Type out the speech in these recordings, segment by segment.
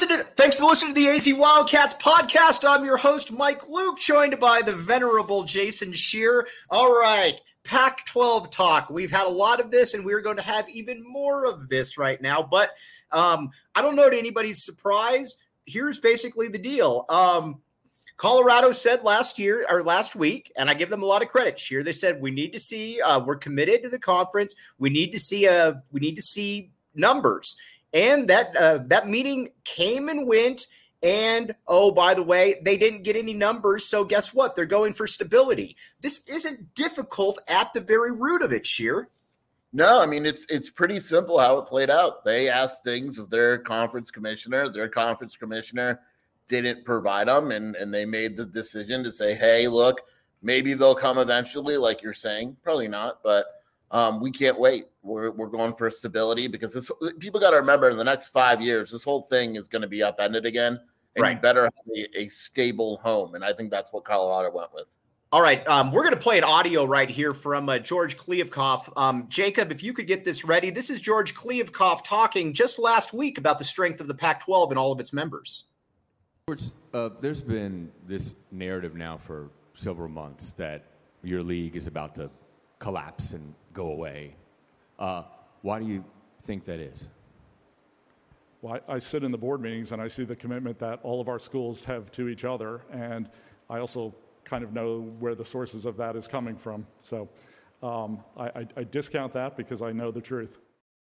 Thanks for listening to the AZ Wildcats podcast. I'm your host, Mike Luke, joined by the venerable Jason Scheer. All right, Pac-12 talk. We've had a lot of this, and we're going to have even more of this right now. But I don't know to anybody's surprise. Here's basically the deal. Colorado said last week, and I give them a lot of credit. Scheer, they said we need to see. We're committed to the conference. We need to see numbers. And that meeting came and went. And, oh, by the way, they didn't get any numbers. So guess what? They're going for stability. This isn't difficult at the very root of it, Scheer. No, I mean, it's pretty simple how it played out. They asked things of their conference commissioner. Their conference commissioner didn't provide them. And they made the decision to say, hey, look, maybe they'll come eventually, like you're saying. Probably not, but we can't wait. We're going for stability because people got to remember in the next 5 years, this whole thing is going to be upended again. And right. You better have a stable home. And I think that's what Colorado went with. All right. We're going to play an audio right here from George Kliavkoff. Jacob, if you could get this ready. This is George Kliavkoff talking just last week about the strength of the Pac-12 and all of its members. George, there's been this narrative now for several months that your league is about to collapse and go away. Why do you think that is? Well, I sit in the board meetings and I see the commitment that all of our schools have to each other, and I also kind of know where the sources of that is coming from. So I discount that because I know the truth.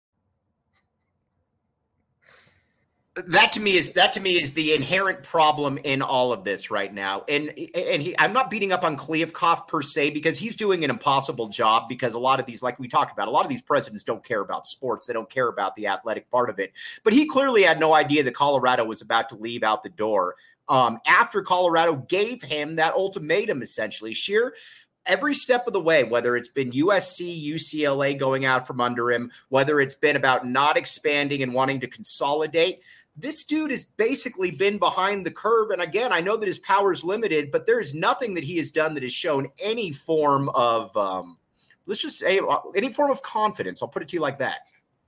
That to me is the inherent problem in all of this right now. And I'm not beating up on Kliavkoff per se because he's doing an impossible job, because a lot of these, like we talked about, a lot of these presidents don't care about sports. They don't care about the athletic part of it. But he clearly had no idea that Colorado was about to leave out the door after Colorado gave him that ultimatum, essentially. Scheer, every step of the way, whether it's been USC, UCLA going out from under him, whether it's been about not expanding and wanting to consolidate, this dude has basically been behind the curve. And again, I know that his power is limited, but there is nothing that he has done that has shown any form of, let's just say, any form of confidence. I'll put it to you like that.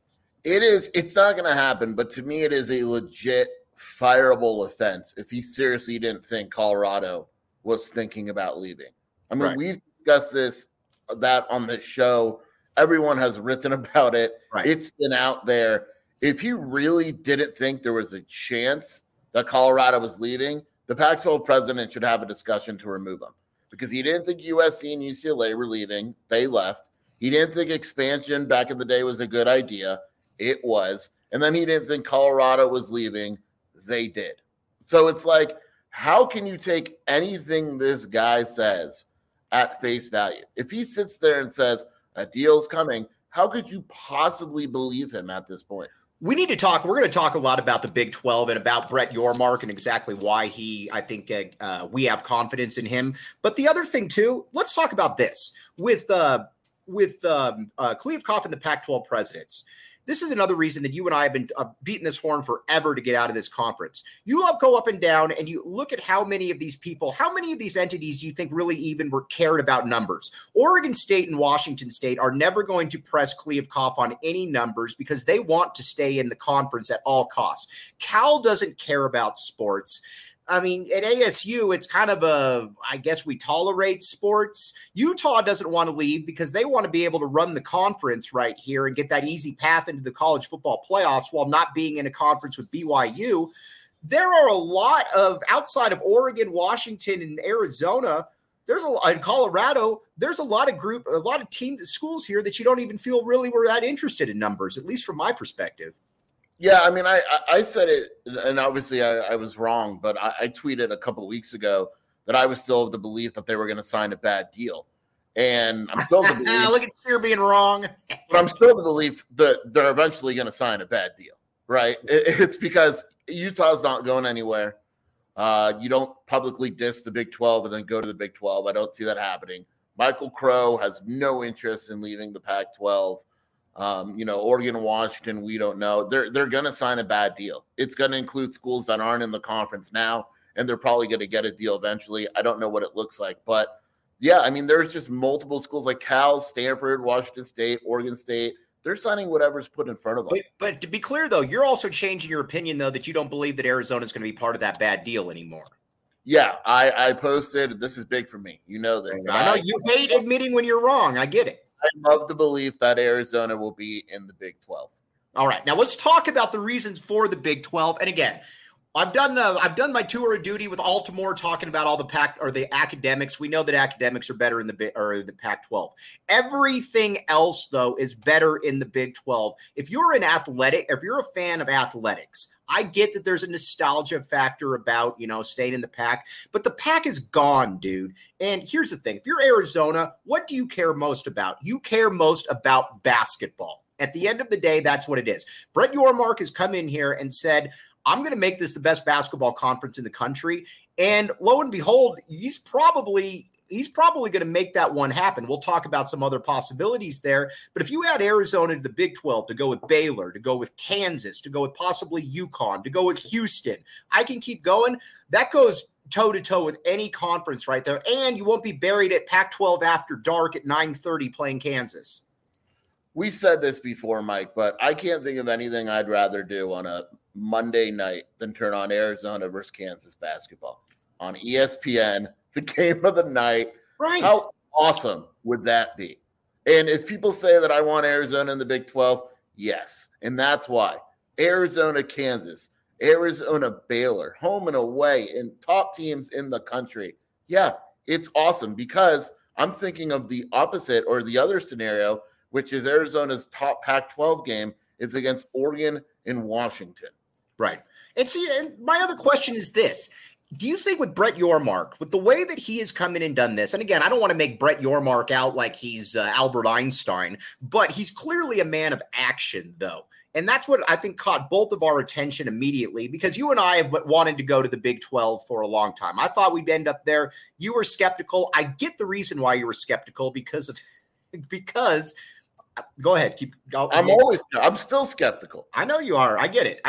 It's not going to happen, but to me, it is a legit fireable offense if he seriously didn't think Colorado was thinking about leaving. I mean, right. We've discussed that on the show. Everyone has written about it. Right. It's been out there. If he really didn't think there was a chance that Colorado was leaving, the Pac-12 president should have a discussion to remove him, because he didn't think USC and UCLA were leaving. They left. He didn't think expansion back in the day was a good idea. It was. And then he didn't think Colorado was leaving. They did. So it's like, how can you take anything this guy says at face value? If he sits there and says a deal's coming, how could you possibly believe him at this point? We need to talk. We're going to talk a lot about the Big 12 and about Brett Yormark and exactly why I think we have confidence in him. But the other thing too, let's talk about this with Kliavkoff and the Pac-12 presidents. This is another reason that you and I have been beating this horn forever to get out of this conference. You go up and down and you look at how many of these people, how many of these entities do you think really even were cared about numbers? Oregon State and Washington State are never going to press Kliavkoff on any numbers because they want to stay in the conference at all costs. Cal doesn't care about sports. I mean, at ASU, it's kind of I guess we tolerate sports. Utah doesn't want to leave because they want to be able to run the conference right here and get that easy path into the college football playoffs while not being in a conference with BYU. There are a lot of, outside of Oregon, Washington, and Arizona, in Colorado, there's a lot of teams, schools here that you don't even feel really were that interested in numbers, at least from my perspective. Yeah, I mean, I said it, and obviously I was wrong, but I tweeted a couple of weeks ago that I was still of the belief that they were going to sign a bad deal. And I'm still of the belief. Look at you being wrong. But I'm still of the belief that they're eventually going to sign a bad deal, right? It's because Utah's not going anywhere. You don't publicly diss the Big 12 and then go to the Big 12. I don't see that happening. Michael Crow has no interest in leaving the Pac-12. Oregon and Washington, we don't know. They're going to sign a bad deal. It's going to include schools that aren't in the conference now, and they're probably going to get a deal eventually. I don't know what it looks like. But, yeah, I mean, there's just multiple schools like Cal, Stanford, Washington State, Oregon State They're signing whatever's put in front of them. But to be clear, though, you're also changing your opinion, though, that you don't believe that Arizona is going to be part of that bad deal anymore. Yeah, I posted, this is big for me. You know this. I know you hate admitting when you're wrong. I get it. I love the belief that Arizona will be in the Big 12. All right, now let's talk about the reasons for the Big 12. And again, I've done my tour of duty with Altimore talking about all the academics. We know that academics are better in the Pac-12. Everything else, though, is better in the Big 12. If you're a fan of athletics, I get that there's a nostalgia factor about, staying in the Pac, but the Pac is gone, dude. And here's the thing. If you're Arizona, what do you care most about? You care most about basketball. At the end of the day, that's what it is. Brett Yormark has come in here and said, I'm going to make this the best basketball conference in the country. And lo and behold, he's probably going to make that one happen. We'll talk about some other possibilities there. But if you add Arizona to the Big 12, to go with Baylor, to go with Kansas, to go with possibly UConn, to go with Houston, I can keep going. That goes toe-to-toe with any conference right there. And you won't be buried at Pac-12 after dark at 9:30 playing Kansas. We said this before, Mike, but I can't think of anything I'd rather do on a Monday night than turn on Arizona versus Kansas basketball on ESPN, the game of the night. Right. How awesome would that be? And if people say that I want Arizona in the Big 12, yes. And that's why. Arizona, Kansas, Arizona, Baylor, home and away, and top teams in the country. Yeah, it's awesome because I'm thinking of the opposite or the other scenario, which is Arizona's top Pac-12 game is against Oregon and Washington. Right. And see, and my other question is this. Do you think with Brett Yormark, with the way that he has come in and done this, and again, I don't want to make Brett Yormark out like he's Albert Einstein, but he's clearly a man of action, though. And that's what I think caught both of our attention immediately, because you and I have wanted to go to the Big 12 for a long time. I thought we'd end up there. You were skeptical. I get the reason why you were skeptical because go ahead. I'm still skeptical. I know you are. I get it.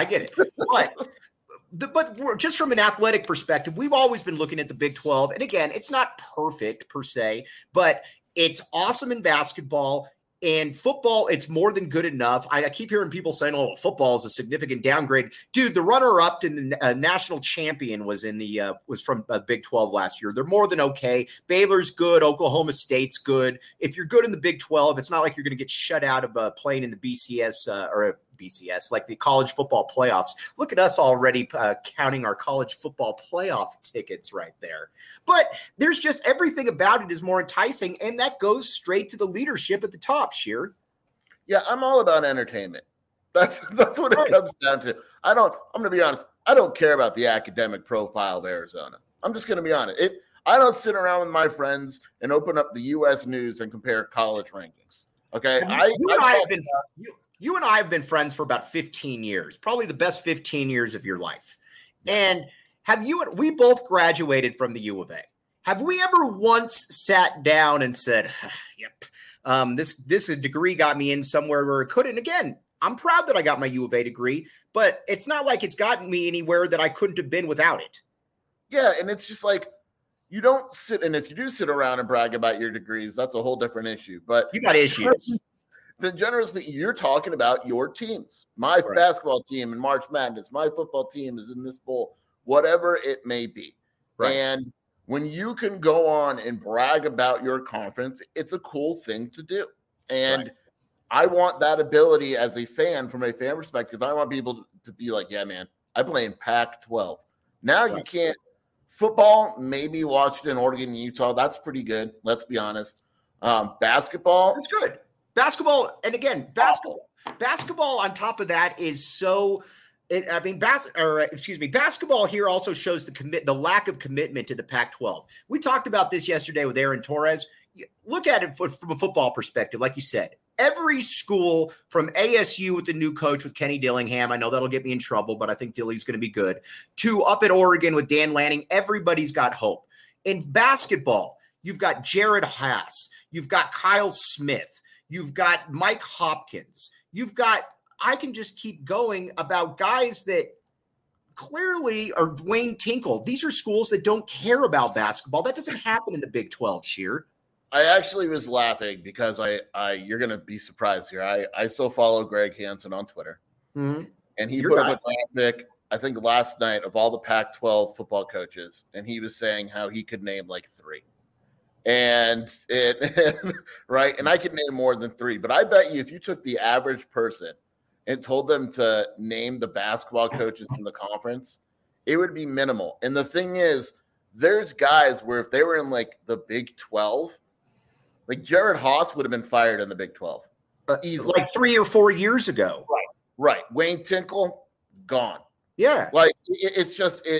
But just from an athletic perspective, we've always been looking at the Big 12. And again, it's not perfect per se, but it's awesome in basketball. And football, it's more than good enough. I keep hearing people saying, "Oh, football is a significant downgrade." Dude, the runner-up in the national champion was from Big 12 last year. They're more than okay. Baylor's good. Oklahoma State's good. If you're good in the Big 12, it's not like you're going to get shut out of playing in the BCS, like the college football playoffs. Look at us already counting our college football playoff tickets right there. But there's just everything about it is more enticing, and that goes straight to the leadership at the top, Sheer. Yeah, I'm all about entertainment. That's what it comes down to. I'm going to be honest. I don't care about the academic profile of Arizona. I'm just going to be honest. I don't sit around with my friends and open up the U.S. News and compare college rankings. Okay? You and I have been friends for about 15 years, probably the best 15 years of your life. And we both graduated from the U of A. Have we ever once sat down and said, yep, this degree got me in somewhere where it couldn't? Again, I'm proud that I got my U of A degree, but it's not like it's gotten me anywhere that I couldn't have been without it. Yeah, and it's just like, you don't sit, and if you do sit around and brag about your degrees, that's a whole different issue. But you got issues. Then generally speaking, you're talking about your teams. My basketball team in March Madness, my football team is in this bowl, whatever it may be. Right. And when you can go on and brag about your conference, it's a cool thing to do. And I want that ability as a fan, from a fan perspective. I want people to be like, yeah, man, I play in Pac-12. Now you can't. Football, maybe watched in Oregon and Utah. That's pretty good. Let's be honest. Basketball. That's good. Basketball, and again, basketball on top of that is so. Basketball here also shows the lack of commitment to the Pac-12. We talked about this yesterday with Aaron Torres. Look at it from a football perspective, like you said. Every school from ASU with the new coach with Kenny Dillingham, I know that'll get me in trouble, but I think Dilly's going to be good, to up at Oregon with Dan Lanning, everybody's got hope. In basketball, you've got Jared Haas, you've got Kyle Smith, you've got Mike Hopkins. I can just keep going about guys that clearly are Dwayne Tinkle. These are schools that don't care about basketball. That doesn't happen in the Big 12, Sheer. I actually was laughing because you're going to be surprised here. I still follow Greg Hansen on Twitter. Mm-hmm. And he put up a graphic, I think last night, of all the Pac-12 football coaches. And he was saying how he could name like 3. Right. And I could name more than 3, but I bet you if you took the average person and told them to name the basketball coaches in the conference, it would be minimal. And the thing is, there's guys where if they were in like the Big 12, like Jared Haas would have been fired in the Big 12. Easily. Like 3 or 4 years ago. Right. Wayne Tinkle, gone. Yeah. Like it's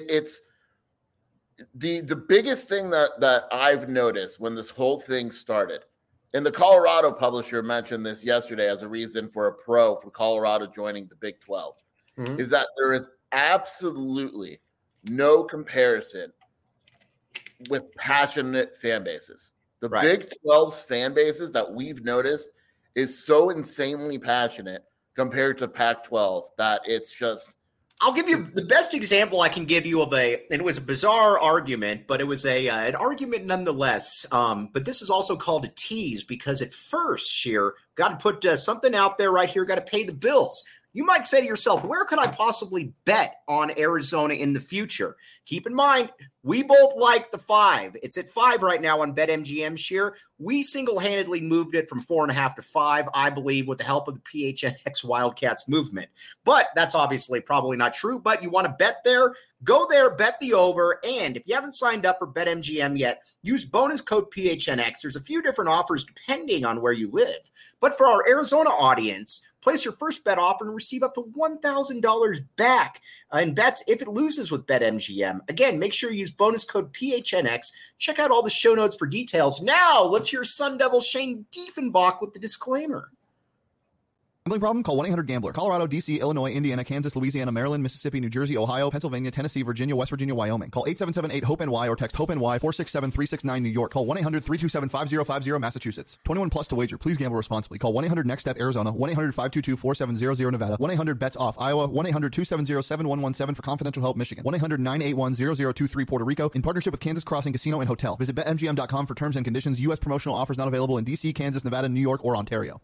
the biggest thing that I've noticed when this whole thing started, and the Colorado Publisher mentioned this yesterday as a reason for a pro for Colorado joining the Big 12, is that there is absolutely no comparison with passionate fan bases. The Big 12's fan bases that we've noticed is so insanely passionate compared to Pac-12 that it's just. I'll give you the best example I can give you it was a bizarre argument, but it was an argument nonetheless. But this is also called a tease because at first, Scheer, got to put something out there right here, got to pay the bills. You might say to yourself, where could I possibly bet on Arizona in the future? Keep in mind, we both like the 5. It's at 5 right now on BetMGM, Scheer. We single-handedly moved it from 4.5 to 5, I believe, with the help of the PHNX Wildcats movement. But that's obviously probably not true. But you want to bet there? Go there, bet the over. And if you haven't signed up for BetMGM yet, use bonus code PHNX. There's a few different offers depending on where you live. But for our Arizona audience, place your first bet offer and receive up to $1,000 back in bets if it loses with BetMGM. Again, make sure you use bonus code PHNX. Check out all the show notes for details. Now, let's hear Sun Devil Shane Diefenbach with the disclaimer. Gambling problem? Call 1-800-GAMBLER. Colorado, D.C., Illinois, Indiana, Kansas, Louisiana, Maryland, Mississippi, New Jersey, Ohio, Pennsylvania, Tennessee, Virginia, West Virginia, Wyoming. Call 877-8-HOPE-NY or text HOPE-NY 467-369 New York. Call 1-800-327-5050 Massachusetts. 21 plus to wager. Please gamble responsibly. Call 1-800-NEXT-STEP Arizona. 1-800-522-4700 Nevada. 1-800-BETS-OFF Iowa. 1-800-270-7117 for confidential help Michigan. 1-800-981-0023 Puerto Rico. In partnership with Kansas Crossing Casino and Hotel. Visit BetMGM.com for terms and conditions. U.S. promotional offers not available in D.C., Kansas, Nevada, New York, or Ontario.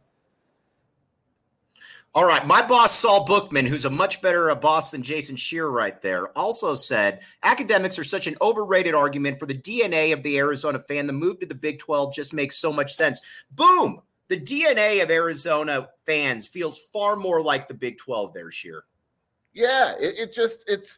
All right, my boss, Saul Bookman, who's a much better boss than Jason Scheer right there, also said, academics are such an overrated argument for the DNA of the Arizona fan. The move to the Big 12 just makes so much sense. Boom! The DNA of Arizona fans feels far more like the Big 12 there, Scheer. Yeah, it's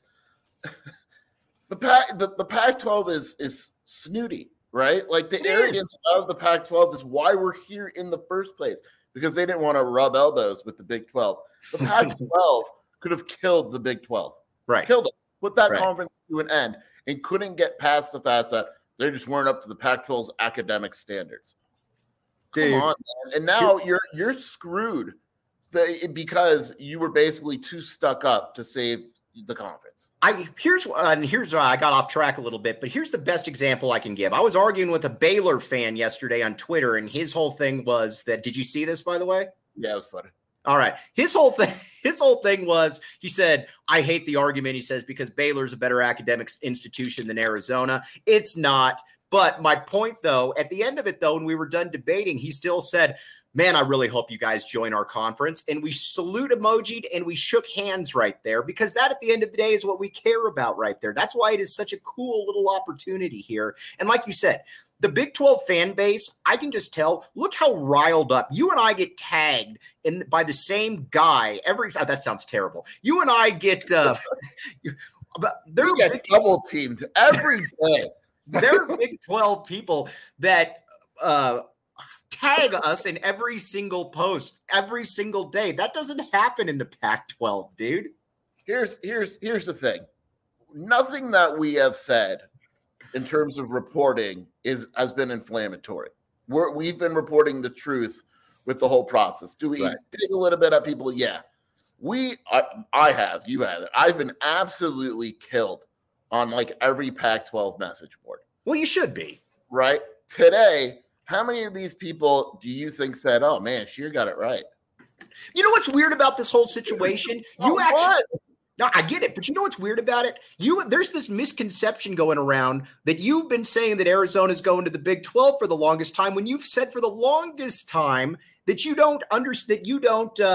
the Pac-12 is snooty, right? Like the arrogance of the Pac-12 is why we're here in the first place. Because they didn't want to rub elbows with the Big 12. The Pac-12 could have killed the Big 12. Right. Killed it. Put that conference to an end and couldn't get past the fact that they just weren't up to the Pac-12's academic standards. Dude. Come on, man. And now you're screwed because you were basically too stuck up to save the conference. Here's where I got off track a little bit, but here's the best example I can give. I was arguing with a Baylor fan yesterday on Twitter, and his whole thing was that. Did you see this, by the way? Yeah, it was funny. All right. His whole thing was, he said, I hate the argument. He says, because Baylor's a better academic institution than Arizona. It's not. But my point, though, at the end of it, though, when we were done debating, he still said, man, I really hope you guys join our conference. And we salute emojied and we shook hands right there because that at the end of the day is what we care about right there. That's why it is such a cool little opportunity here. And like you said, the Big 12 fan base, I can just tell, look how riled up. You and I get tagged by the same guy that sounds terrible. You and I get they're double teamed every day. There are Big 12 people that tag us in every single post every single day. That doesn't happen in the Pac-12, dude. Here's the thing. Nothing that we have said in terms of reporting has been inflammatory. We've been reporting the truth with the whole process. Do we dig a little bit at people? Yeah. I have. You have. I've been absolutely killed on like every Pac-12 message board. Well, you should be. Right? Today, how many of these people do you think said, oh, man, Scheer got it right? You know what's weird about this whole situation? No, I get it, but you know what's weird about it? There's this misconception going around that you've been saying that Arizona's going to the Big 12 for the longest time, when you've said for the longest time that you don't understand, you would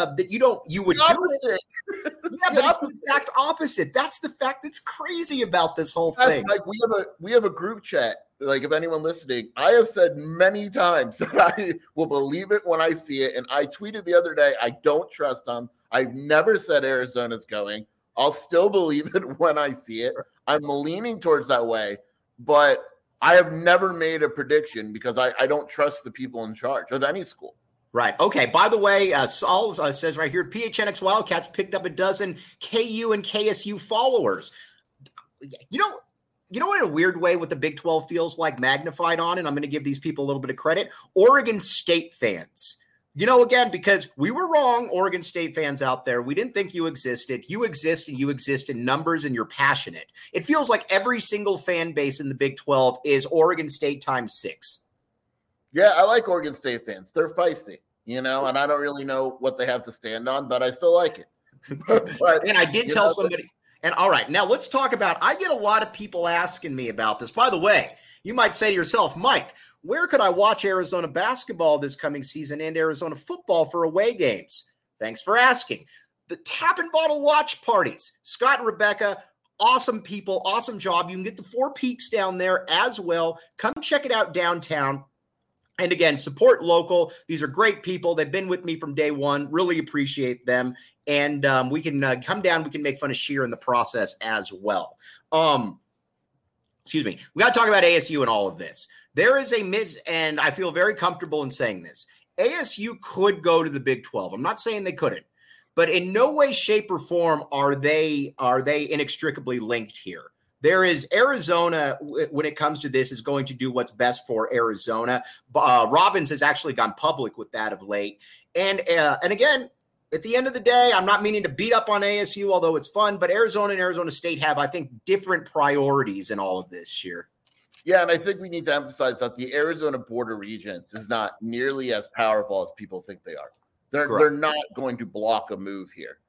do it. Yeah, but it's the exact opposite. That's the fact that's crazy about this whole thing. Like we have a group chat. Like, if anyone listening, I have said many times that I will believe it when I see it. And I tweeted the other day, I don't trust them. I've never said Arizona's going. I'll still believe it when I see it. I'm leaning towards that way, but I have never made a prediction because I don't trust the people in charge of any school. Right. Okay. By the way, Saul says right here, PHNX Wildcats picked up a dozen KU and KSU followers. You know what, in a weird way, what the Big 12 feels like magnified on, and I'm going to give these people a little bit of credit, Oregon State fans. Again, because we were wrong, Oregon State fans out there. We didn't think you existed. You exist, and you exist in numbers, and you're passionate. It feels like every single fan base in the Big 12 is Oregon State times 6. Yeah, I like Oregon State fans. They're feisty, and I don't really know what they have to stand on, but I still like it. And I did tell somebody. And all right, now let's talk about, I get a lot of people asking me about this. By the way, you might say to yourself, Mike, where could I watch Arizona basketball this coming season and Arizona football for away games? Thanks for asking. The Tap and Bottle watch parties. Scott and Rebecca, awesome people, awesome job. You can get the Four Peaks down there as well. Come check it out downtown. And again, support local. These are great people. They've been with me from day one. Really appreciate them. And we can come down. We can make fun of Sheer in the process as well. Excuse me. We got to talk about ASU and all of this. There is and I feel very comfortable in saying this. ASU could go to the Big 12. I'm not saying they couldn't, but in no way, shape, or form are they inextricably linked here. There is Arizona, when it comes to this, is going to do what's best for Arizona. Robbins has actually gone public with that of late. And again, at the end of the day, I'm not meaning to beat up on ASU, although it's fun, but Arizona and Arizona State have, I think, different priorities in all of this year. Yeah, and I think we need to emphasize that the Arizona Board of Regents is not nearly as powerful as people think they are. They're not going to block a move here.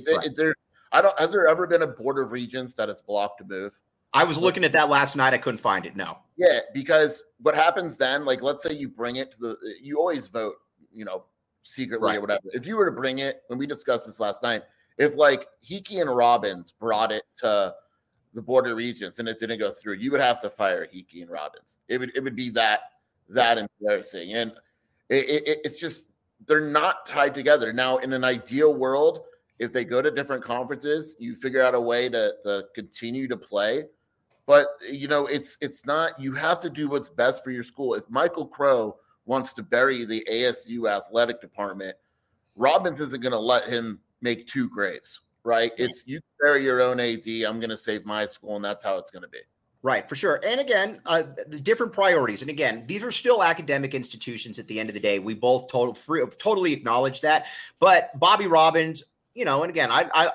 Has there ever been a Board of Regents that has blocked a move? I was looking at that last night. I couldn't find it. No. Yeah, because what happens then, like, let's say you bring it to you always vote, secretly or whatever. If you were to bring it, when we discussed this last night, if like Hickey and Robbins brought it to the Board of Regents and it didn't go through, you would have to fire Hickey and Robbins. It would be that embarrassing. And it's just, they're not tied together. Now, in an ideal world, if they go to different conferences, you figure out a way to continue to play. But, it's not, you have to do what's best for your school. If Michael Crow wants to bury the ASU athletic department, Robbins isn't going to let him make two graves, right? It's you bury your own AD, I'm going to save my school, and that's how it's going to be. Right, for sure. And again, the different priorities. And again, these are still academic institutions at the end of the day. We both totally acknowledge that. But Bobby Robbins, and again, I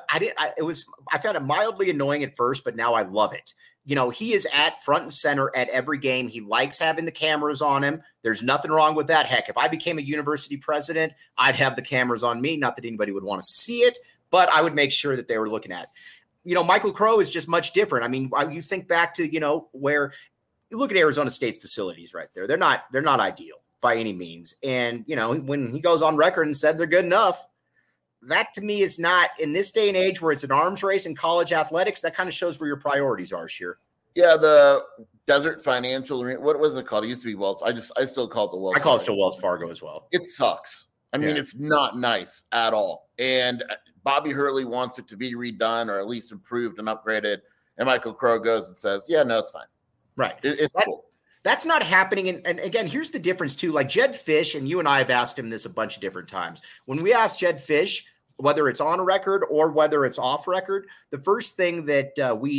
found it mildly annoying at first, but now I love it. He is at front and center at every game. He likes having the cameras on him. There's nothing wrong with that. Heck, if I became a university president, I'd have the cameras on me. Not that anybody would want to see it, but I would make sure that they were looking at it. Michael Crow is just much different. I mean, you think back to, where you look at Arizona State's facilities right there. They're not ideal by any means. And, when he goes on record and said they're good enough, that to me is not, in this day and age where it's an arms race in college athletics, that kind of shows where your priorities are, Sheer. Yeah, the Desert Financial, what was it called? It used to be Wells. I still call it the Wells. I call it still Wells Fargo as well. It sucks. I mean, it's not nice at all. And Bobby Hurley wants it to be redone or at least improved and upgraded. And Michael Crow goes and says, yeah, no, it's fine. Right. It's cool. That's not happening. And again, here's the difference too. Like Jedd Fisch, and you and I have asked him this a bunch of different times. When we asked Jedd Fisch, whether it's on record or whether it's off record, the first thing that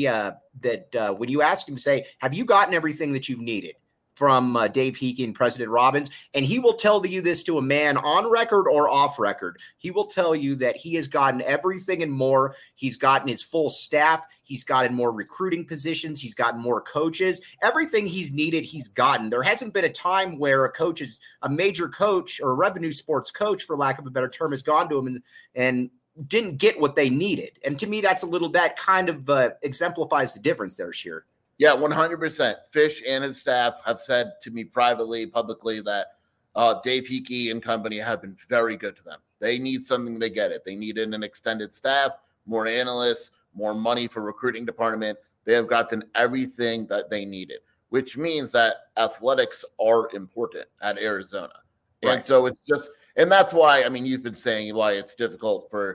when you ask him, say, have you gotten everything that you've needed from Dave Hickey and President Robbins? And he will tell you this to a man on record or off record. He will tell you that he has gotten everything and more. He's gotten his full staff. He's gotten more recruiting positions. He's gotten more coaches. Everything he's needed, he's gotten. There hasn't been a time where a major coach or a revenue sports coach, for lack of a better term, has gone to him and didn't get what they needed. And to me, that kind of exemplifies the difference there, Scheer. Yeah, 100%. Fish and his staff have said to me privately, publicly, that Dave Hickey and company have been very good to them. They need something, they get it. They needed an extended staff, more analysts, more money for recruiting department. They have gotten everything that they needed, which means that athletics are important at Arizona. Right. And so it's just, and that's why, I mean, you've been saying why it's difficult for,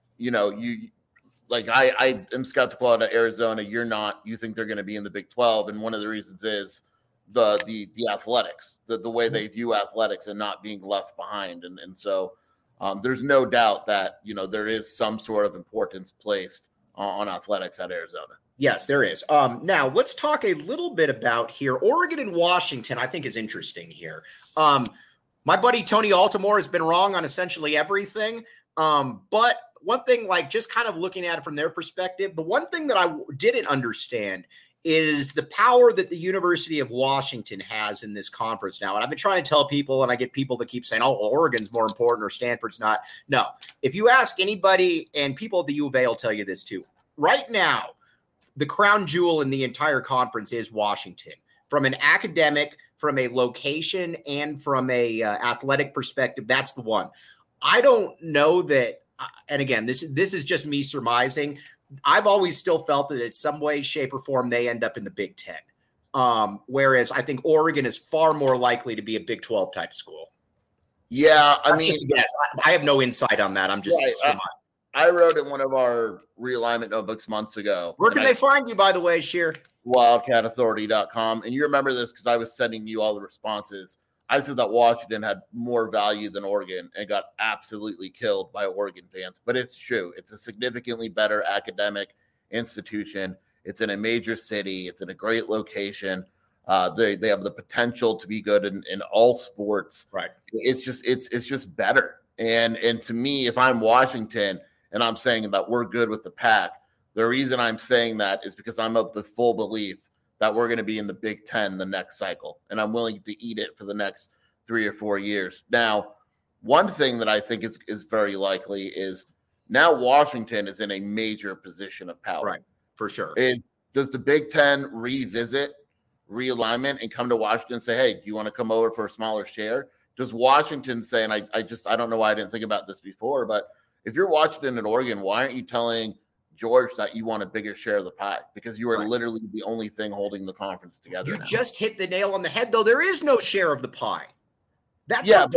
I am skeptical out of Arizona. You're not. You think they're going to be in the Big 12, and one of the reasons is the athletics, the way they view athletics and not being left behind. And so there's no doubt that there is some sort of importance placed on athletics at Arizona. Yes, there is. Now let's talk a little bit about here. Oregon and Washington, I think, is interesting here. My buddy Tony Altimore has been wrong on essentially everything, but one thing, just kind of looking at it from their perspective, the one thing that I didn't understand is the power that the University of Washington has in this conference now. And I've been trying to tell people, and I get people that keep saying, oh, well, Oregon's more important or Stanford's not. No. If you ask anybody, and people at the U of A will tell you this too, right now, the crown jewel in the entire conference is Washington. From an academic, from a location, and from a athletic perspective, that's the one. I don't know that. And again, this is just me surmising. I've always still felt that in some way, shape, or form, they end up in the Big Ten. Whereas I think Oregon is far more likely to be a Big 12 type school. Yeah, yes, I have no insight on that. I'm just surmising. I wrote in one of our realignment notebooks months ago. Where can they find you, by the way, Scheer? WildcatAuthority.com. And you remember this because I was sending you all the responses. I said that Washington had more value than Oregon and got absolutely killed by Oregon fans. But it's true. It's a significantly better academic institution. It's in a major city. It's in a great location. They have the potential to be good in all sports. Right. It's just better. And to me, if I'm Washington and I'm saying that we're good with the Pac, the reason I'm saying that is because I'm of the full belief that we're going to be in the Big Ten the next cycle, and I'm willing to eat it for the next 3 or 4 years. Now, one thing that I think is very likely is now Washington is in a major position of power. Right, for sure. Does the Big Ten revisit realignment and come to Washington and say, hey, do you want to come over for a smaller share? Does Washington say, and I don't know why I didn't think about this before, but if you're Washington and Oregon, why aren't you telling George that you want a bigger share of the pie? Because you are literally the only thing holding the conference together. You just hit the nail on the head, though. There is no share of the pie. That's I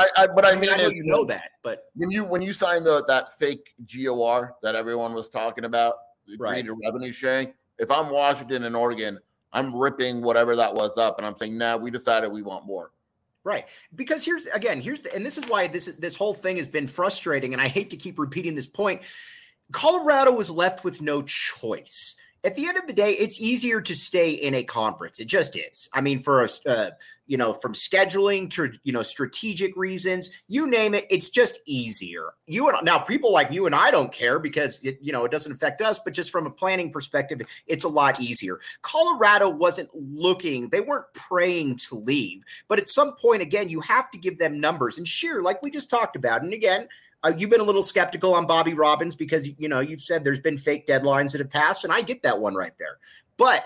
know you know that, but when you signed that fake GOR that everyone was talking about, created revenue sharing. If I'm Washington and Oregon, I'm ripping whatever that was up, and I'm saying, nah, we decided we want more. Right. Because and this is why this whole thing has been frustrating, and I hate to keep repeating this point. Colorado was left with no choice. At the end of the day, it's easier to stay in a conference. It just is. I mean, for from scheduling to strategic reasons, you name it, it's just easier. Now people like you and I don't care because it doesn't affect us, but just from a planning perspective, it's a lot easier. Colorado wasn't looking; they weren't praying to leave, but at some point, again, you have to give them numbers. And sure, like we just talked about, and again. You've been a little skeptical on Bobby Robbins because, you've said there's been fake deadlines that have passed, and I get that one right there. But,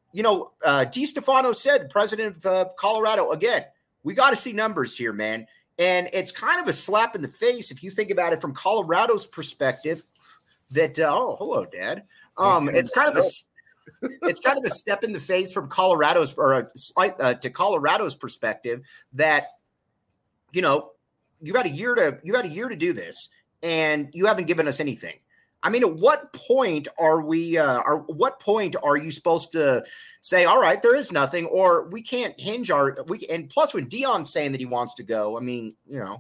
DeStefano said, the president of Colorado, again, we got to see numbers here, man. And it's kind of a slap in the face if you think about it from Colorado's perspective that, hello, Dad. It's kind of a step in the face from Colorado's to Colorado's perspective that, you got a year to do this, and you haven't given us anything. I mean, at what point are you supposed to say, all right, there is nothing, or we can't hinge and plus when Deion's saying that he wants to go, I mean,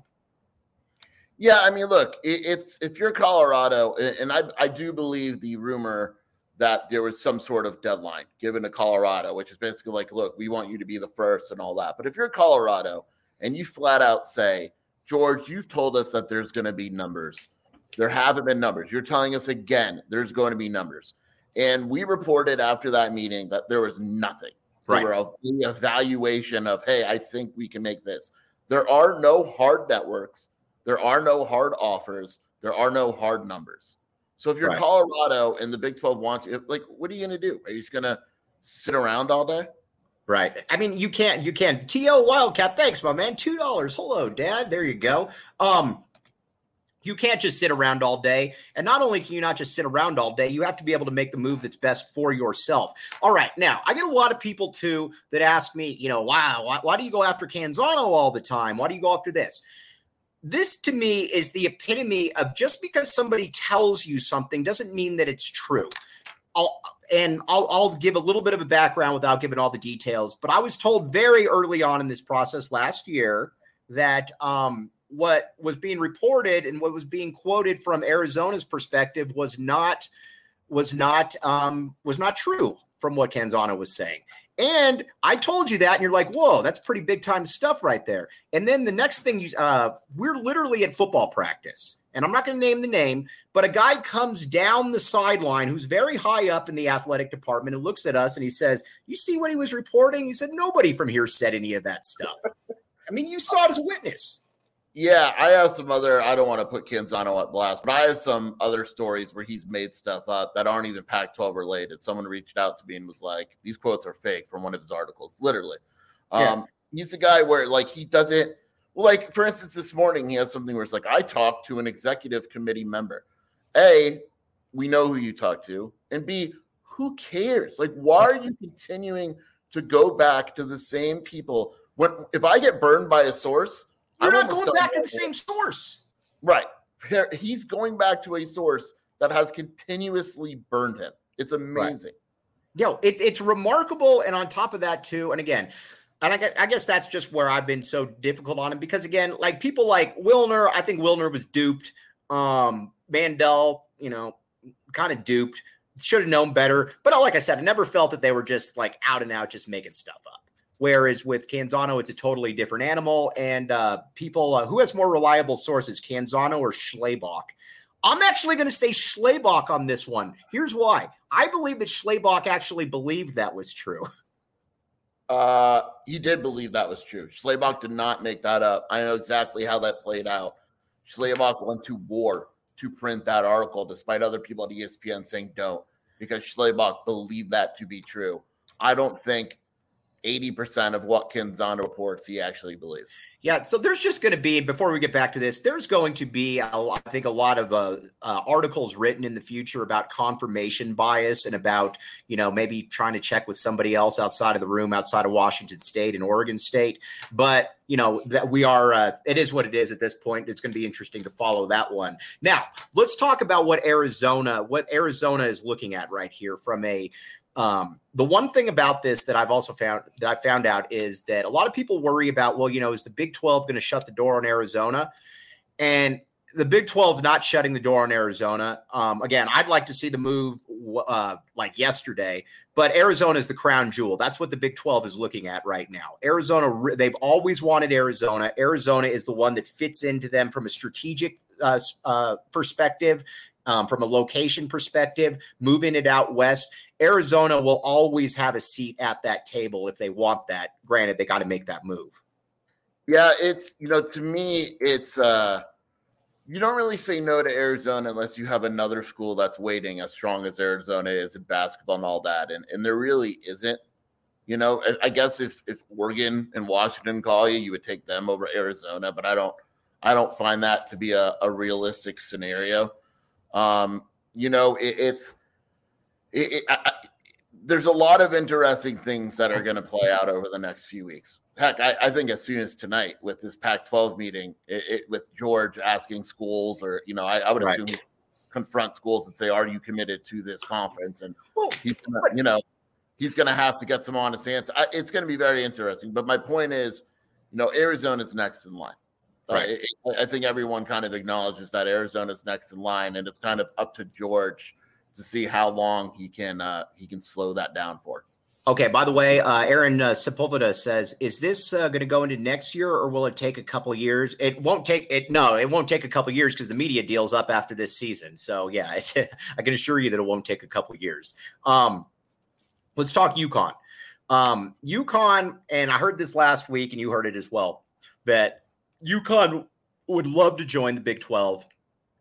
Yeah, I mean, look, if you're Colorado, and I do believe the rumor that there was some sort of deadline given to Colorado, which is basically like, look, we want you to be the first and all that. But if you're Colorado and you flat out say, George, you've told us that there's going to be numbers. There haven't been numbers. You're telling us again, there's going to be numbers. And we reported after that meeting that there was nothing. Right. There were the evaluation of, hey, I think we can make this. There are no hard networks. There are no hard offers. There are no hard numbers. So if you're Right. Colorado and the Big 12 wants you, like, what are you going to do? Are you just going to sit around all day? Right. I mean, you can't. T.O. Wildcat, thanks, my man. $2. Hello, Dad. There you go. You can't just sit around all day. And not only can you not just sit around all day, you have to be able to make the move that's best for yourself. All right. Now, I get a lot of people, too, that ask me, why do you go after Canzano all the time? Why do you go after this? This, to me, is the epitome of just because somebody tells you something doesn't mean that it's true. I'll give a little bit of a background without giving all the details. But I was told very early on in this process last year that what was being reported and what was being quoted from Arizona's perspective was not true from what Canzano was saying. And I told you that, and you're like, whoa, that's pretty big time stuff right there. And then the next thing, we're literally at football practice, and I'm not going to name the name, but a guy comes down the sideline who's very high up in the athletic department and looks at us and he says, you see what he was reporting? He said, nobody from here said any of that stuff. I mean, you saw it as a witness. Yeah, I have some other, I don't want to put Canzano at blast, but I have some other stories where he's made stuff up that aren't even Pac-12 related. Someone reached out to me and was like, these quotes are fake from one of his articles, literally. He's a guy where, like, he doesn't, like, for instance, this morning he has something where it's like, I talked to an executive committee member. A, we know who you talked to, and B, who cares? Like, why are you continuing to go back to the same people? If I get burned by a source, you're not going back to the same source. Right. He's going back to a source that has continuously burned him. It's amazing. Right. It's remarkable. And on top of that, too, and again, and I guess that's just where I've been so difficult on him because, again, like people like Wilner, I think Wilner was duped. Mandel, kind of duped. Should have known better. But like I said, I never felt that they were just like out and out just making stuff up. Whereas with Canzano, it's a totally different animal. And people, who has more reliable sources, Canzano or Schlabach? I'm actually going to say Schlabach on this one. Here's why. I believe that Schlabach actually believed that was true. He did believe that was true. Schlabach did not make that up. I know exactly how that played out. Schlabach went to war to print that article, despite other people at ESPN saying don't, because Schlabach believed that to be true. I don't think 80% of what Canzano reports he actually believes. Yeah, so there's just going to be, before we get back to this, there's going to be, I think, a lot of articles written in the future about confirmation bias and about, maybe trying to check with somebody else outside of the room, outside of Washington State and Oregon State. But, that we are, it is what it is at this point. It's going to be interesting to follow that one. Now, let's talk about what Arizona is looking at right here from a, the one thing about this that I found out is that a lot of people worry about, is the Big 12 going to shut the door on Arizona? And the Big 12 is not shutting the door on Arizona. Again, I'd like to see the move like yesterday, but Arizona is the crown jewel. That's what the Big 12 is looking at right now. Arizona, they've always wanted Arizona. Arizona is the one that fits into them from a strategic perspective. From a location perspective, moving it out west, Arizona will always have a seat at that table if they want that. Granted, they got to make that move. Yeah, it's, to me, it's, you don't really say no to Arizona unless you have another school that's waiting as strong as Arizona is in basketball and all that. And there really isn't. I guess if Oregon and Washington call you, you would take them over Arizona, but I don't find that to be a realistic scenario. There's a lot of interesting things that are going to play out over the next few weeks. Heck, I think as soon as tonight with this Pac-12 meeting, with George asking schools, or I would assume confront schools and say, "Are you committed to this conference?" And he's going to have to get some honest answers. It's going to be very interesting. But my point is, Arizona's next in line. Right. I think everyone kind of acknowledges that Arizona's next in line, and it's kind of up to George to see how long he can slow that down for. Okay. By the way, Aaron Sepulveda says, "Is this going to go into next year, or will it take a couple of years?" It won't take it. No, it won't take a couple of years because the media deal's up after this season. So yeah, I can assure you that it won't take a couple of years. Let's talk UConn. UConn, and I heard this last week, and you heard it as well, that UConn would love to join the Big 12.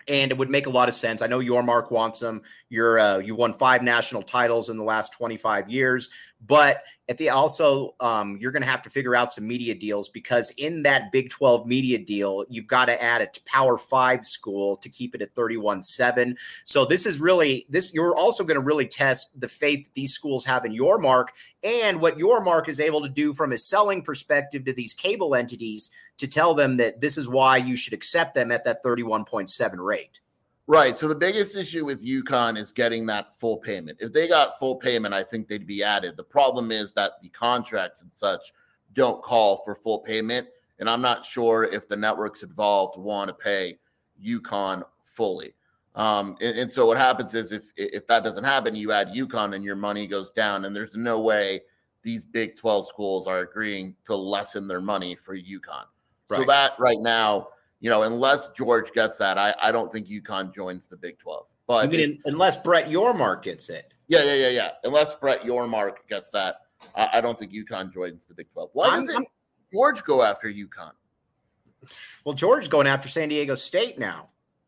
And it would make a lot of sense. I know Yormark wants them. You won 5 national titles in the last 25 years, but you're going to have to figure out some media deals, because in that Big 12 media deal, you've got to add a Power 5 school to keep it at 31-7. So you're also going to really test the faith that these schools have in Yormark, and what Yormark is able to do from a selling perspective to these cable entities to tell them that this is why you should accept them at that 31.7 rate. Right. So the biggest issue with UConn is getting that full payment. If they got full payment, I think they'd be added. The problem is that the contracts and such don't call for full payment. And I'm not sure if the networks involved want to pay UConn fully. And so what happens is if that doesn't happen, you add UConn and your money goes down. And there's no way these Big 12 schools are agreeing to lessen their money for UConn. Right. So that right now, unless George gets that, I don't think UConn joins the Big 12. But unless Brett Yormark gets it. Yeah. Unless Brett Yormark gets that, I don't think UConn joins the Big 12. Why doesn't George go after UConn? Well, George's going after San Diego State now.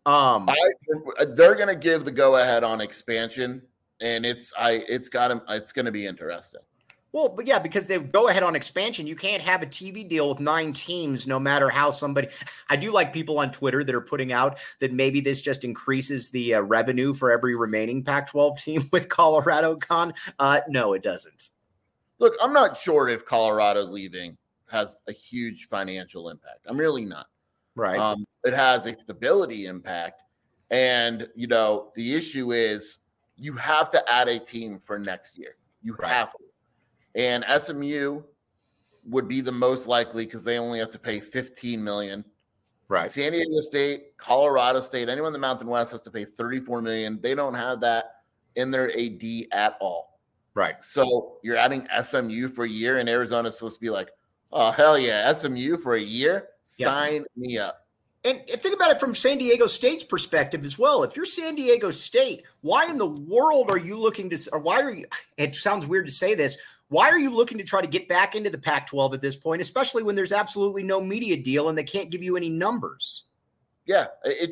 They're going to give the go-ahead on expansion, and it's going to be interesting. Well, but yeah, because they go ahead on expansion. You can't have a TV deal with 9 teams, no matter how somebody. I do like people on Twitter that are putting out that maybe this just increases the revenue for every remaining Pac-12 team with Colorado gone. No, it doesn't. Look, I'm not sure if Colorado leaving has a huge financial impact. I'm really not. Right. It has a stability impact, and the issue is you have to add a team for next year. You have to. And SMU would be the most likely because they only have to pay $15 million. Right. San Diego State, Colorado State, anyone in the Mountain West has to pay $34 million. They don't have that in their AD at all. Right. So you're adding SMU for a year, and Arizona's supposed to be like, oh, hell yeah, SMU for a year? Sign me up. And think about it from San Diego State's perspective as well. If you're San Diego State, why in the world are you looking to – or why are you – it sounds weird to say this – why are you looking to try to get back into the Pac-12 at this point, especially when there's absolutely no media deal and they can't give you any numbers? Yeah,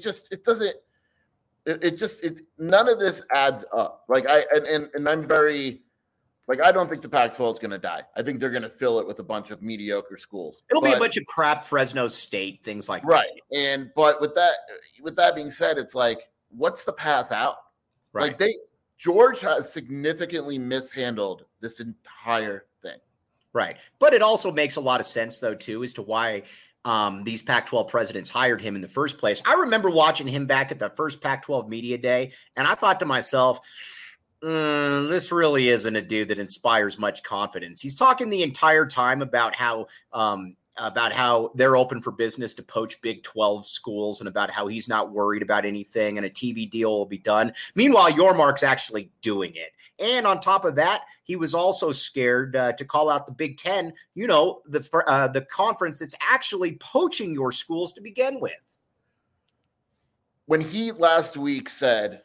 none of this adds up. I'm very, I don't think the Pac-12 is going to die. I think they're going to fill it with a bunch of mediocre schools. It'll be a bunch of crap, Fresno State, things like that. Right. But with that being said, it's like, what's the path out? Right. George has significantly mishandled this entire thing. Right. But it also makes a lot of sense, though, too, as to why these Pac-12 presidents hired him in the first place. I remember watching him back at the first Pac-12 media day, and I thought to myself, this really isn't a dude that inspires much confidence. He's talking the entire time about how they're open for business to poach Big 12 schools and about how he's not worried about anything and a TV deal will be done. Meanwhile, Yormark's actually doing it. And on top of that, he was also scared to call out the Big 10, the conference that's actually poaching your schools to begin with. When he last week said,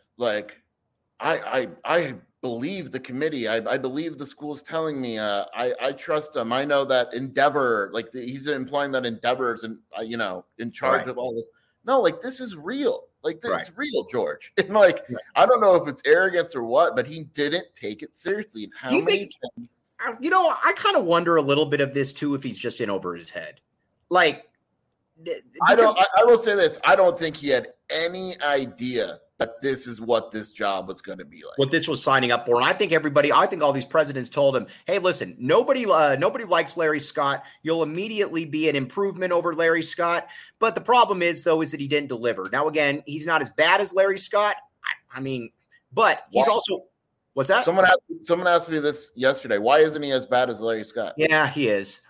I believe the committee. I believe the school's telling me. I trust them. I know that Endeavor, he's implying that Endeavor's in charge of all this. No, this is real. It's real, George. And I don't know if it's arrogance or what, but he didn't take it seriously. And how many times? I kind of wonder a little bit of this too, if he's just in over his head. I will say this. I don't think he had any idea that this is what this job was going to be like. What this was signing up for. And I think all these presidents told him, hey, listen, nobody likes Larry Scott. You'll immediately be an improvement over Larry Scott. But the problem is that he didn't deliver. Now, again, he's not as bad as Larry Scott. But he's also – what's that? Someone asked me this yesterday. Why isn't he as bad as Larry Scott? Yeah, he is.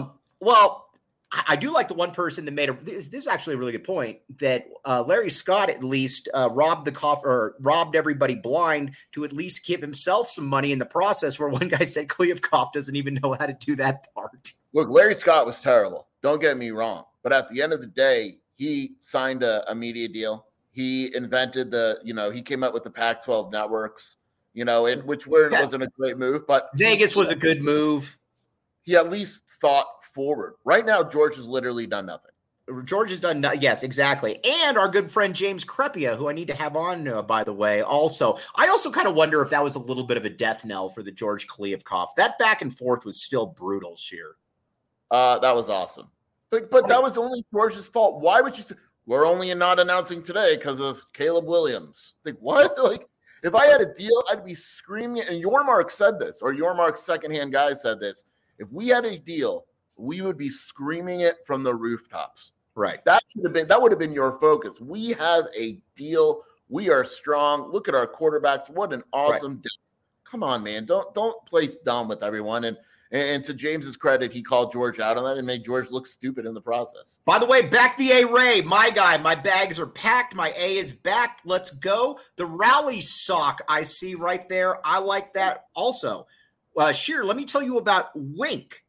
I do like the one person that made this is actually a really good point that Larry Scott at least robbed everybody blind to at least give himself some money in the process, where one guy said Kliavkoff doesn't even know how to do that part. Look, Larry Scott was terrible. Don't get me wrong. But at the end of the day, he signed a media deal. He invented he came up with the Pac-12 networks, which wasn't a great move. But Vegas was a good move. He at least thought forward. Right now, George has literally done nothing. George has done, yes, exactly. And our good friend James Crepia, who I need to have on, by the way, also. I also kind of wonder if that was a little bit of a death knell for the George Kliavkoff. That back and forth was still brutal, Scheer. That was awesome. But that was only George's fault. Why would you say, we're only not announcing today because of Caleb Williams? Like, what? Like, if I had a deal, I'd be screaming. And Yormark said this, or Yormark's secondhand guy said this. If we had a deal, we would be screaming it from the rooftops. Right. That would have been your focus. We have a deal. We are strong. Look at our quarterbacks. What an awesome deal. Come on, man. Don't play dumb with everyone. And to James's credit, he called George out on that and made George look stupid in the process. By the way, back the A-Ray, my guy. My bags are packed. My A is back. Let's go. The rally sock I see right there. I like that also. Scheer, let me tell you about Wink.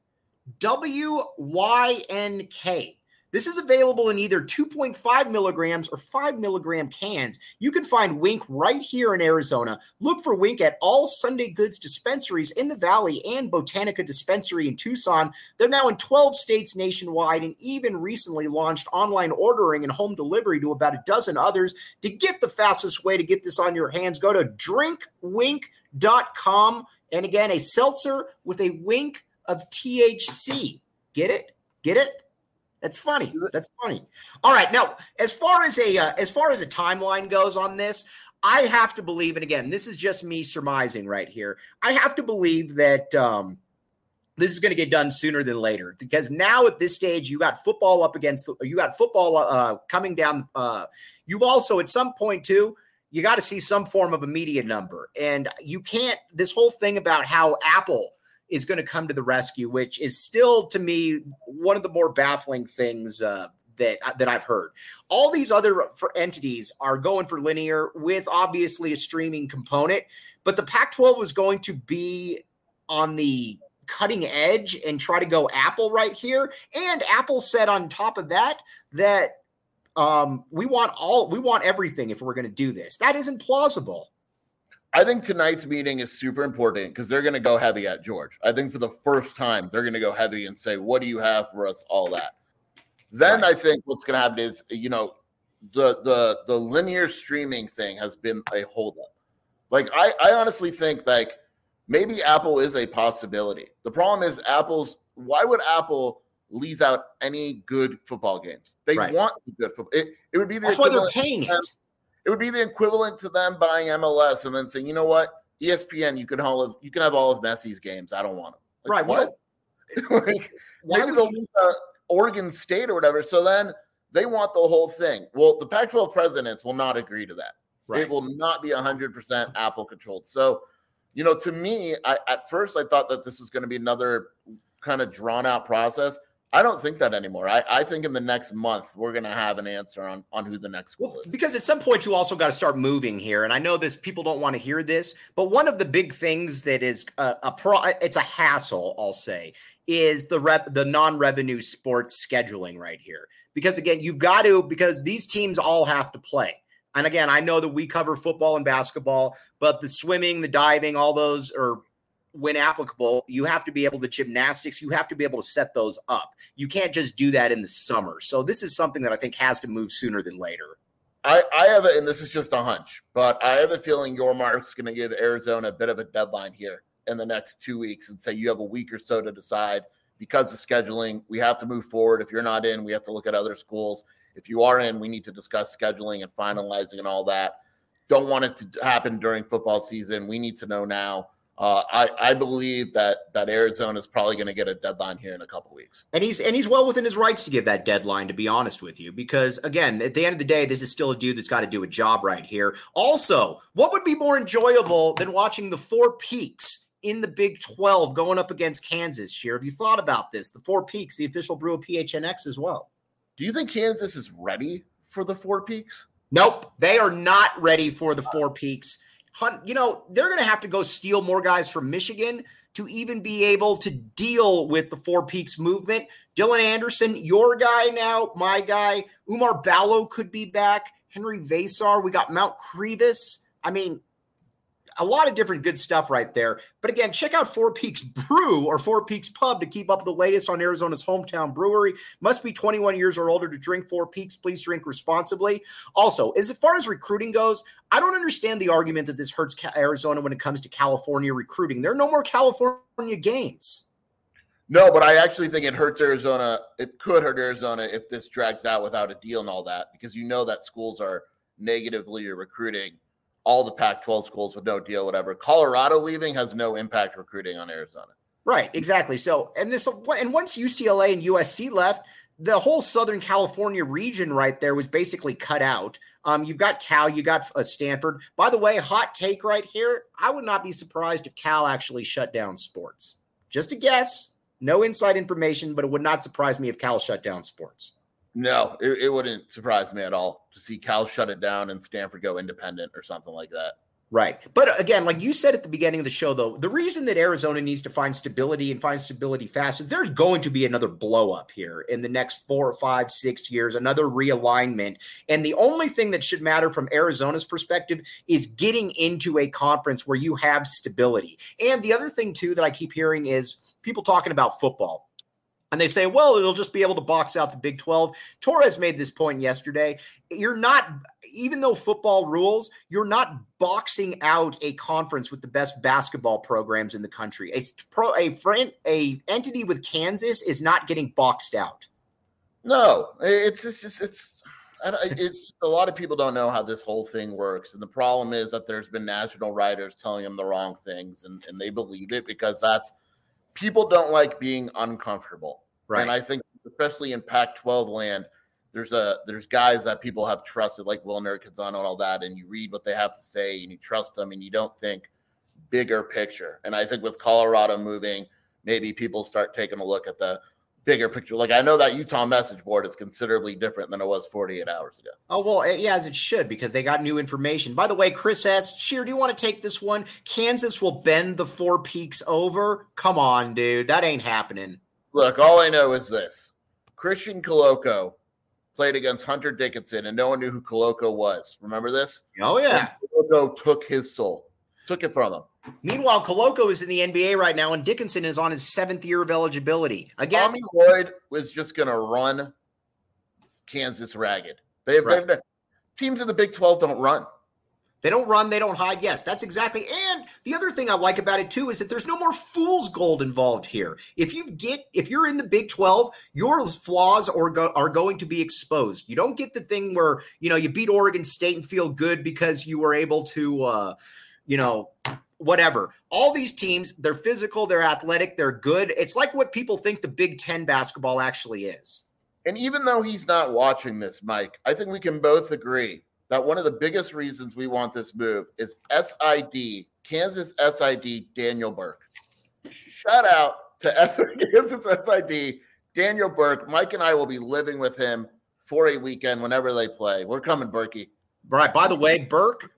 WYNK. This is available in either 2.5 milligrams or 5 milligram cans. You can find Wink right here in Arizona. Look for Wink at all Sunday Goods dispensaries in the Valley and Botanica Dispensary in Tucson. They're now in 12 states nationwide and even recently launched online ordering and home delivery to about a dozen others. To get the fastest way to get this on your hands, go to drinkwink.com. And again, a seltzer with a wink of THC. Get it? Get it? That's funny. That's funny. All right. Now, as far as a timeline goes on this, I have to believe, and again, this is just me surmising right here. I have to believe that this is going to get done sooner than later, because now at this stage, you got football coming down. You've also at some point too, you got to see some form of a media number, and you can't. This whole thing about how Apple is going to come to the rescue, which is still, to me, one of the more baffling things that I've heard. All these other entities are going for linear with obviously a streaming component, but the Pac-12 was going to be on the cutting edge and try to go Apple right here. And Apple said on top of that we want everything if we're going to do this. That isn't plausible. I think tonight's meeting is super important because they're going to go heavy at George. I think for the first time, they're going to go heavy and say, what do you have for us? All that. Then right. I think what's going to happen is, the linear streaming thing has been a holdup. Like, I honestly think, like, maybe Apple is a possibility. The problem is why would Apple lease out any good football games? They right. want the good football. It would be that's why they're paying it. It would be the equivalent to them buying MLS and then saying, you know what, ESPN, you can have all of Messi's games. I don't want them. Like, right. What? Like, maybe they'll lose Oregon State or whatever. So then they want the whole thing. Well, the Pac-12 presidents will not agree to that. Right. It will not be 100% Apple controlled. So, to me, at first I thought that this was going to be another kind of drawn out process. I don't think that anymore. I think in the next month, we're going to have an answer on who the next school is. Because at some point, you also got to start moving here. And I know people don't want to hear this, but one of the big things that is it's a hassle, I'll say, is the non-revenue sports scheduling right here. Because again, because these teams all have to play. And again, I know that we cover football and basketball, but the swimming, the diving, all those are, when applicable, you have to be able to gymnastics. You have to be able to set those up. You can't just do that in the summer. So this is something that I think has to move sooner than later. I have and this is just a hunch, but I have a feeling Yormark's going to give Arizona a bit of a deadline here in the next 2 weeks and say you have a week or so to decide because of scheduling. We have to move forward. If you're not in, we have to look at other schools. If you are in, we need to discuss scheduling and finalizing and all that. Don't want it to happen during football season. We need to know now. I believe that Arizona is probably going to get a deadline here in a couple weeks. And he's well within his rights to give that deadline, to be honest with you, because again, at the end of the day, this is still a dude that's got to do a job right here. Also, what would be more enjoyable than watching the Four Peaks in the Big 12 going up against Kansas? Scheer, have you thought about this? The Four Peaks, the official brew of PHNX as well. Do you think Kansas is ready for the Four Peaks? Nope, they are not ready for the Four Peaks. They're going to have to go steal more guys from Michigan to even be able to deal with the Four Peaks movement. Dylan Anderson, your guy now, my guy. Umar Ballo could be back. Henry Vasar. We got Mount Crevis. I mean, a lot of different good stuff right there. But again, check out Four Peaks Brew or Four Peaks Pub to keep up with the latest on Arizona's hometown brewery. Must be 21 years or older to drink Four Peaks. Please drink responsibly. Also, as far as recruiting goes, I don't understand the argument that this hurts Arizona when it comes to California recruiting. There are no more California games. No, but I actually think it hurts Arizona. It could hurt Arizona if this drags out without a deal and all that, because you know that schools are negatively recruiting all the Pac-12 schools with no deal, whatever. Colorado leaving has no impact recruiting on Arizona. Right, exactly. So, and once UCLA and USC left, the whole Southern California region right there was basically cut out. You've got Cal, you got Stanford. By the way, hot take right here. I would not be surprised if Cal actually shut down sports. Just a guess. No inside information, but it would not surprise me if Cal shut down sports. No, it wouldn't surprise me at all to see Cal shut it down and Stanford go independent or something like that. Right. But again, like you said at the beginning of the show, though, the reason that Arizona needs to find stability and find stability fast is there's going to be another blow up here in the next 4 or 5, 6 years, another realignment. And the only thing that should matter from Arizona's perspective is getting into a conference where you have stability. And the other thing, too, that I keep hearing is people talking about football. And they say, well, it'll just be able to box out the Big 12. Torres made this point yesterday. You're not, even though football rules, you're not boxing out a conference with the best basketball programs in the country. A entity with Kansas is not getting boxed out. No, it's a lot of people don't know how this whole thing works. And the problem is that there's been national writers telling them the wrong things, and they believe it because people don't like being uncomfortable. Right. And I think especially in Pac-12 land, there's guys that people have trusted like Will Nurkic and all that. And you read what they have to say and you trust them and you don't think bigger picture. And I think with Colorado moving, maybe people start taking a look at the bigger picture. Like I know that Utah message board is considerably different than it was 48 hours ago. Oh, well, yeah, as it should, because they got new information. By the way, Chris S. Sheer, do you want to take this one? Kansas will bend the Four Peaks over? Come on, dude. That ain't happening. Look, all I know is this. Christian Coloco played against Hunter Dickinson, and no one knew who Coloco was. Remember this? Oh, yeah. And Coloco took his soul. Took it from him. Meanwhile, Coloco is in the NBA right now, and Dickinson is on his 7th year of eligibility. Again, Tommy Lloyd was just going to run Kansas ragged. Teams in the Big 12 don't run. They don't run, they don't hide. Yes, that's exactly. And the other thing I like about it too is that there's no more fool's gold involved here. If you're in the Big 12, your flaws are going to be exposed. You don't get the thing where you beat Oregon State and feel good because you were able to, whatever. All these teams, they're physical, they're athletic, they're good. It's like what people think the Big 10 basketball actually is. And even though he's not watching this, Mike, I think we can both agree that one of the biggest reasons we want this move is Kansas SID, Daniel Burke. Shout out to Kansas SID, Daniel Burke. Mike and I will be living with him for a weekend whenever they play. We're coming, Berkey. Right. By the way, Burke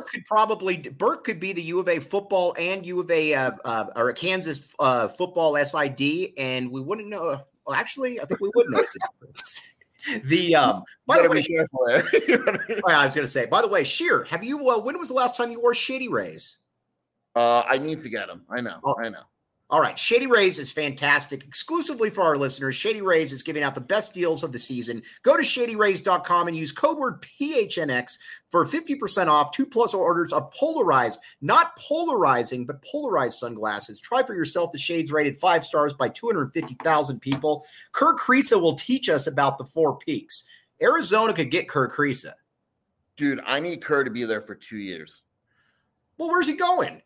could be the U of A football and U of A or Kansas football SID, and we wouldn't know. Well, actually, I think we would know the difference. By the way, I was going to say, by the way, Sheer, have you, when was the last time you wore Shady Rays? I need to get them. I know. All right. Shady Rays is fantastic. Exclusively for our listeners, Shady Rays is giving out the best deals of the season. Go to shadyrays.com and use code word PHNX for 50% off 2+ orders of polarized, not polarizing, but polarized sunglasses. Try for yourself the shades rated 5 stars by 250,000 people. Kerr Kriisa will teach us about the Four Peaks. Arizona could get Kerr Kriisa. Dude, I need Kerr to be there for 2 years. Well, where's he going?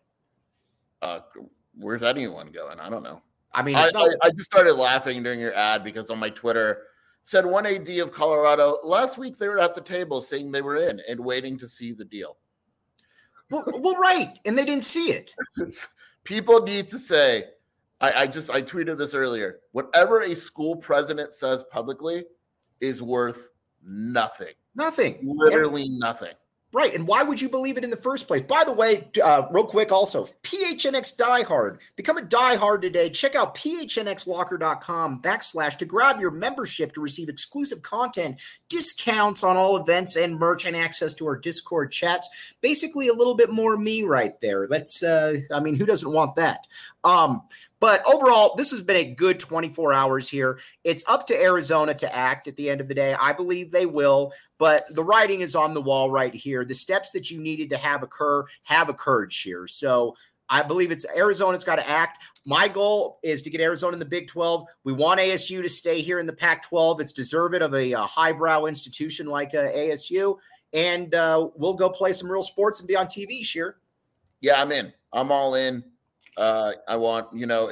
Where's anyone going? I don't know. I mean, I just started laughing during your ad because on my Twitter said one AD of Colorado last week they were at the table saying they were in and waiting to see the deal. Well, right, and they didn't see it. People need to say. I tweeted this earlier. Whatever a school president says publicly is worth nothing. Nothing. Literally nothing. Right. And why would you believe it in the first place? By the way, real quick also, PHNX Diehard. Become a diehard today. Check out phnxlocker.com/ to grab your membership to receive exclusive content, discounts on all events and merch, and access to our Discord chats. Basically, a little bit more me right there. Who doesn't want that? But overall, this has been a good 24 hours here. It's up to Arizona to act at the end of the day. I believe they will, but the writing is on the wall right here. The steps that you needed to have occurred, Scheer. So I believe it's Arizona's got to act. My goal is to get Arizona in the Big 12. We want ASU to stay here in the Pac-12. It's deserving of a highbrow institution like ASU. And we'll go play some real sports and be on TV, Scheer. Yeah, I'm in. I'm all in. I want,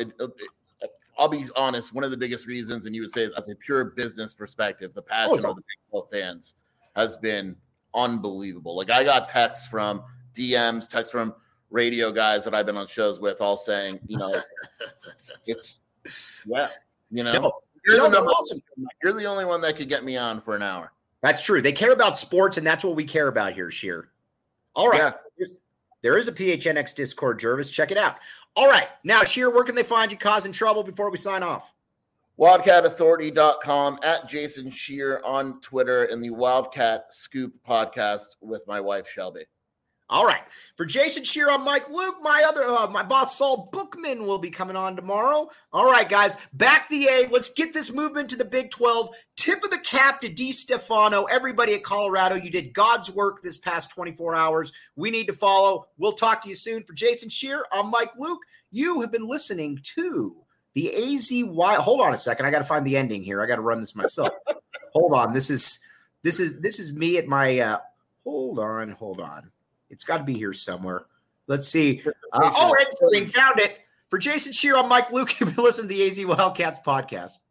I'll be honest, one of the biggest reasons, and you would say as a pure business perspective, the passion of the Big 12 fans has been unbelievable. Like I got texts from DMs, texts from radio guys that I've been on shows with all saying, it's, yeah, you're the only one that could get me on for an hour. That's true. They care about sports, and that's what we care about here, Scheer. All right. Yeah. There is a PHNX Discord, Jervis. Check it out. All right. Now, Scheer, where can they find you causing trouble before we sign off? WildcatAuthority.com, at Jason Scheer on Twitter, and the Wildcat Scoop podcast with my wife, Shelby. All right. For Jason Scheer, I'm Mike Luke. My boss, Saul Bookman, will be coming on tomorrow. All right, guys. Back the A. Let's get this movement to the Big 12. Tip of the cap to DeStefano. Everybody at Colorado, you did God's work this past 24 hours. We need to follow. We'll talk to you soon. For Jason Scheer, I'm Mike Luke. You have been listening to the AZY. Hold on a second. I got to find the ending here. I got to run this myself. Hold on. This is me at my hold on. It's got to be here somewhere. Let's see. Ed Sterling found it. For Jason Scheer, I'm Mike Luke. You've been listening to the AZ Wildcats podcast.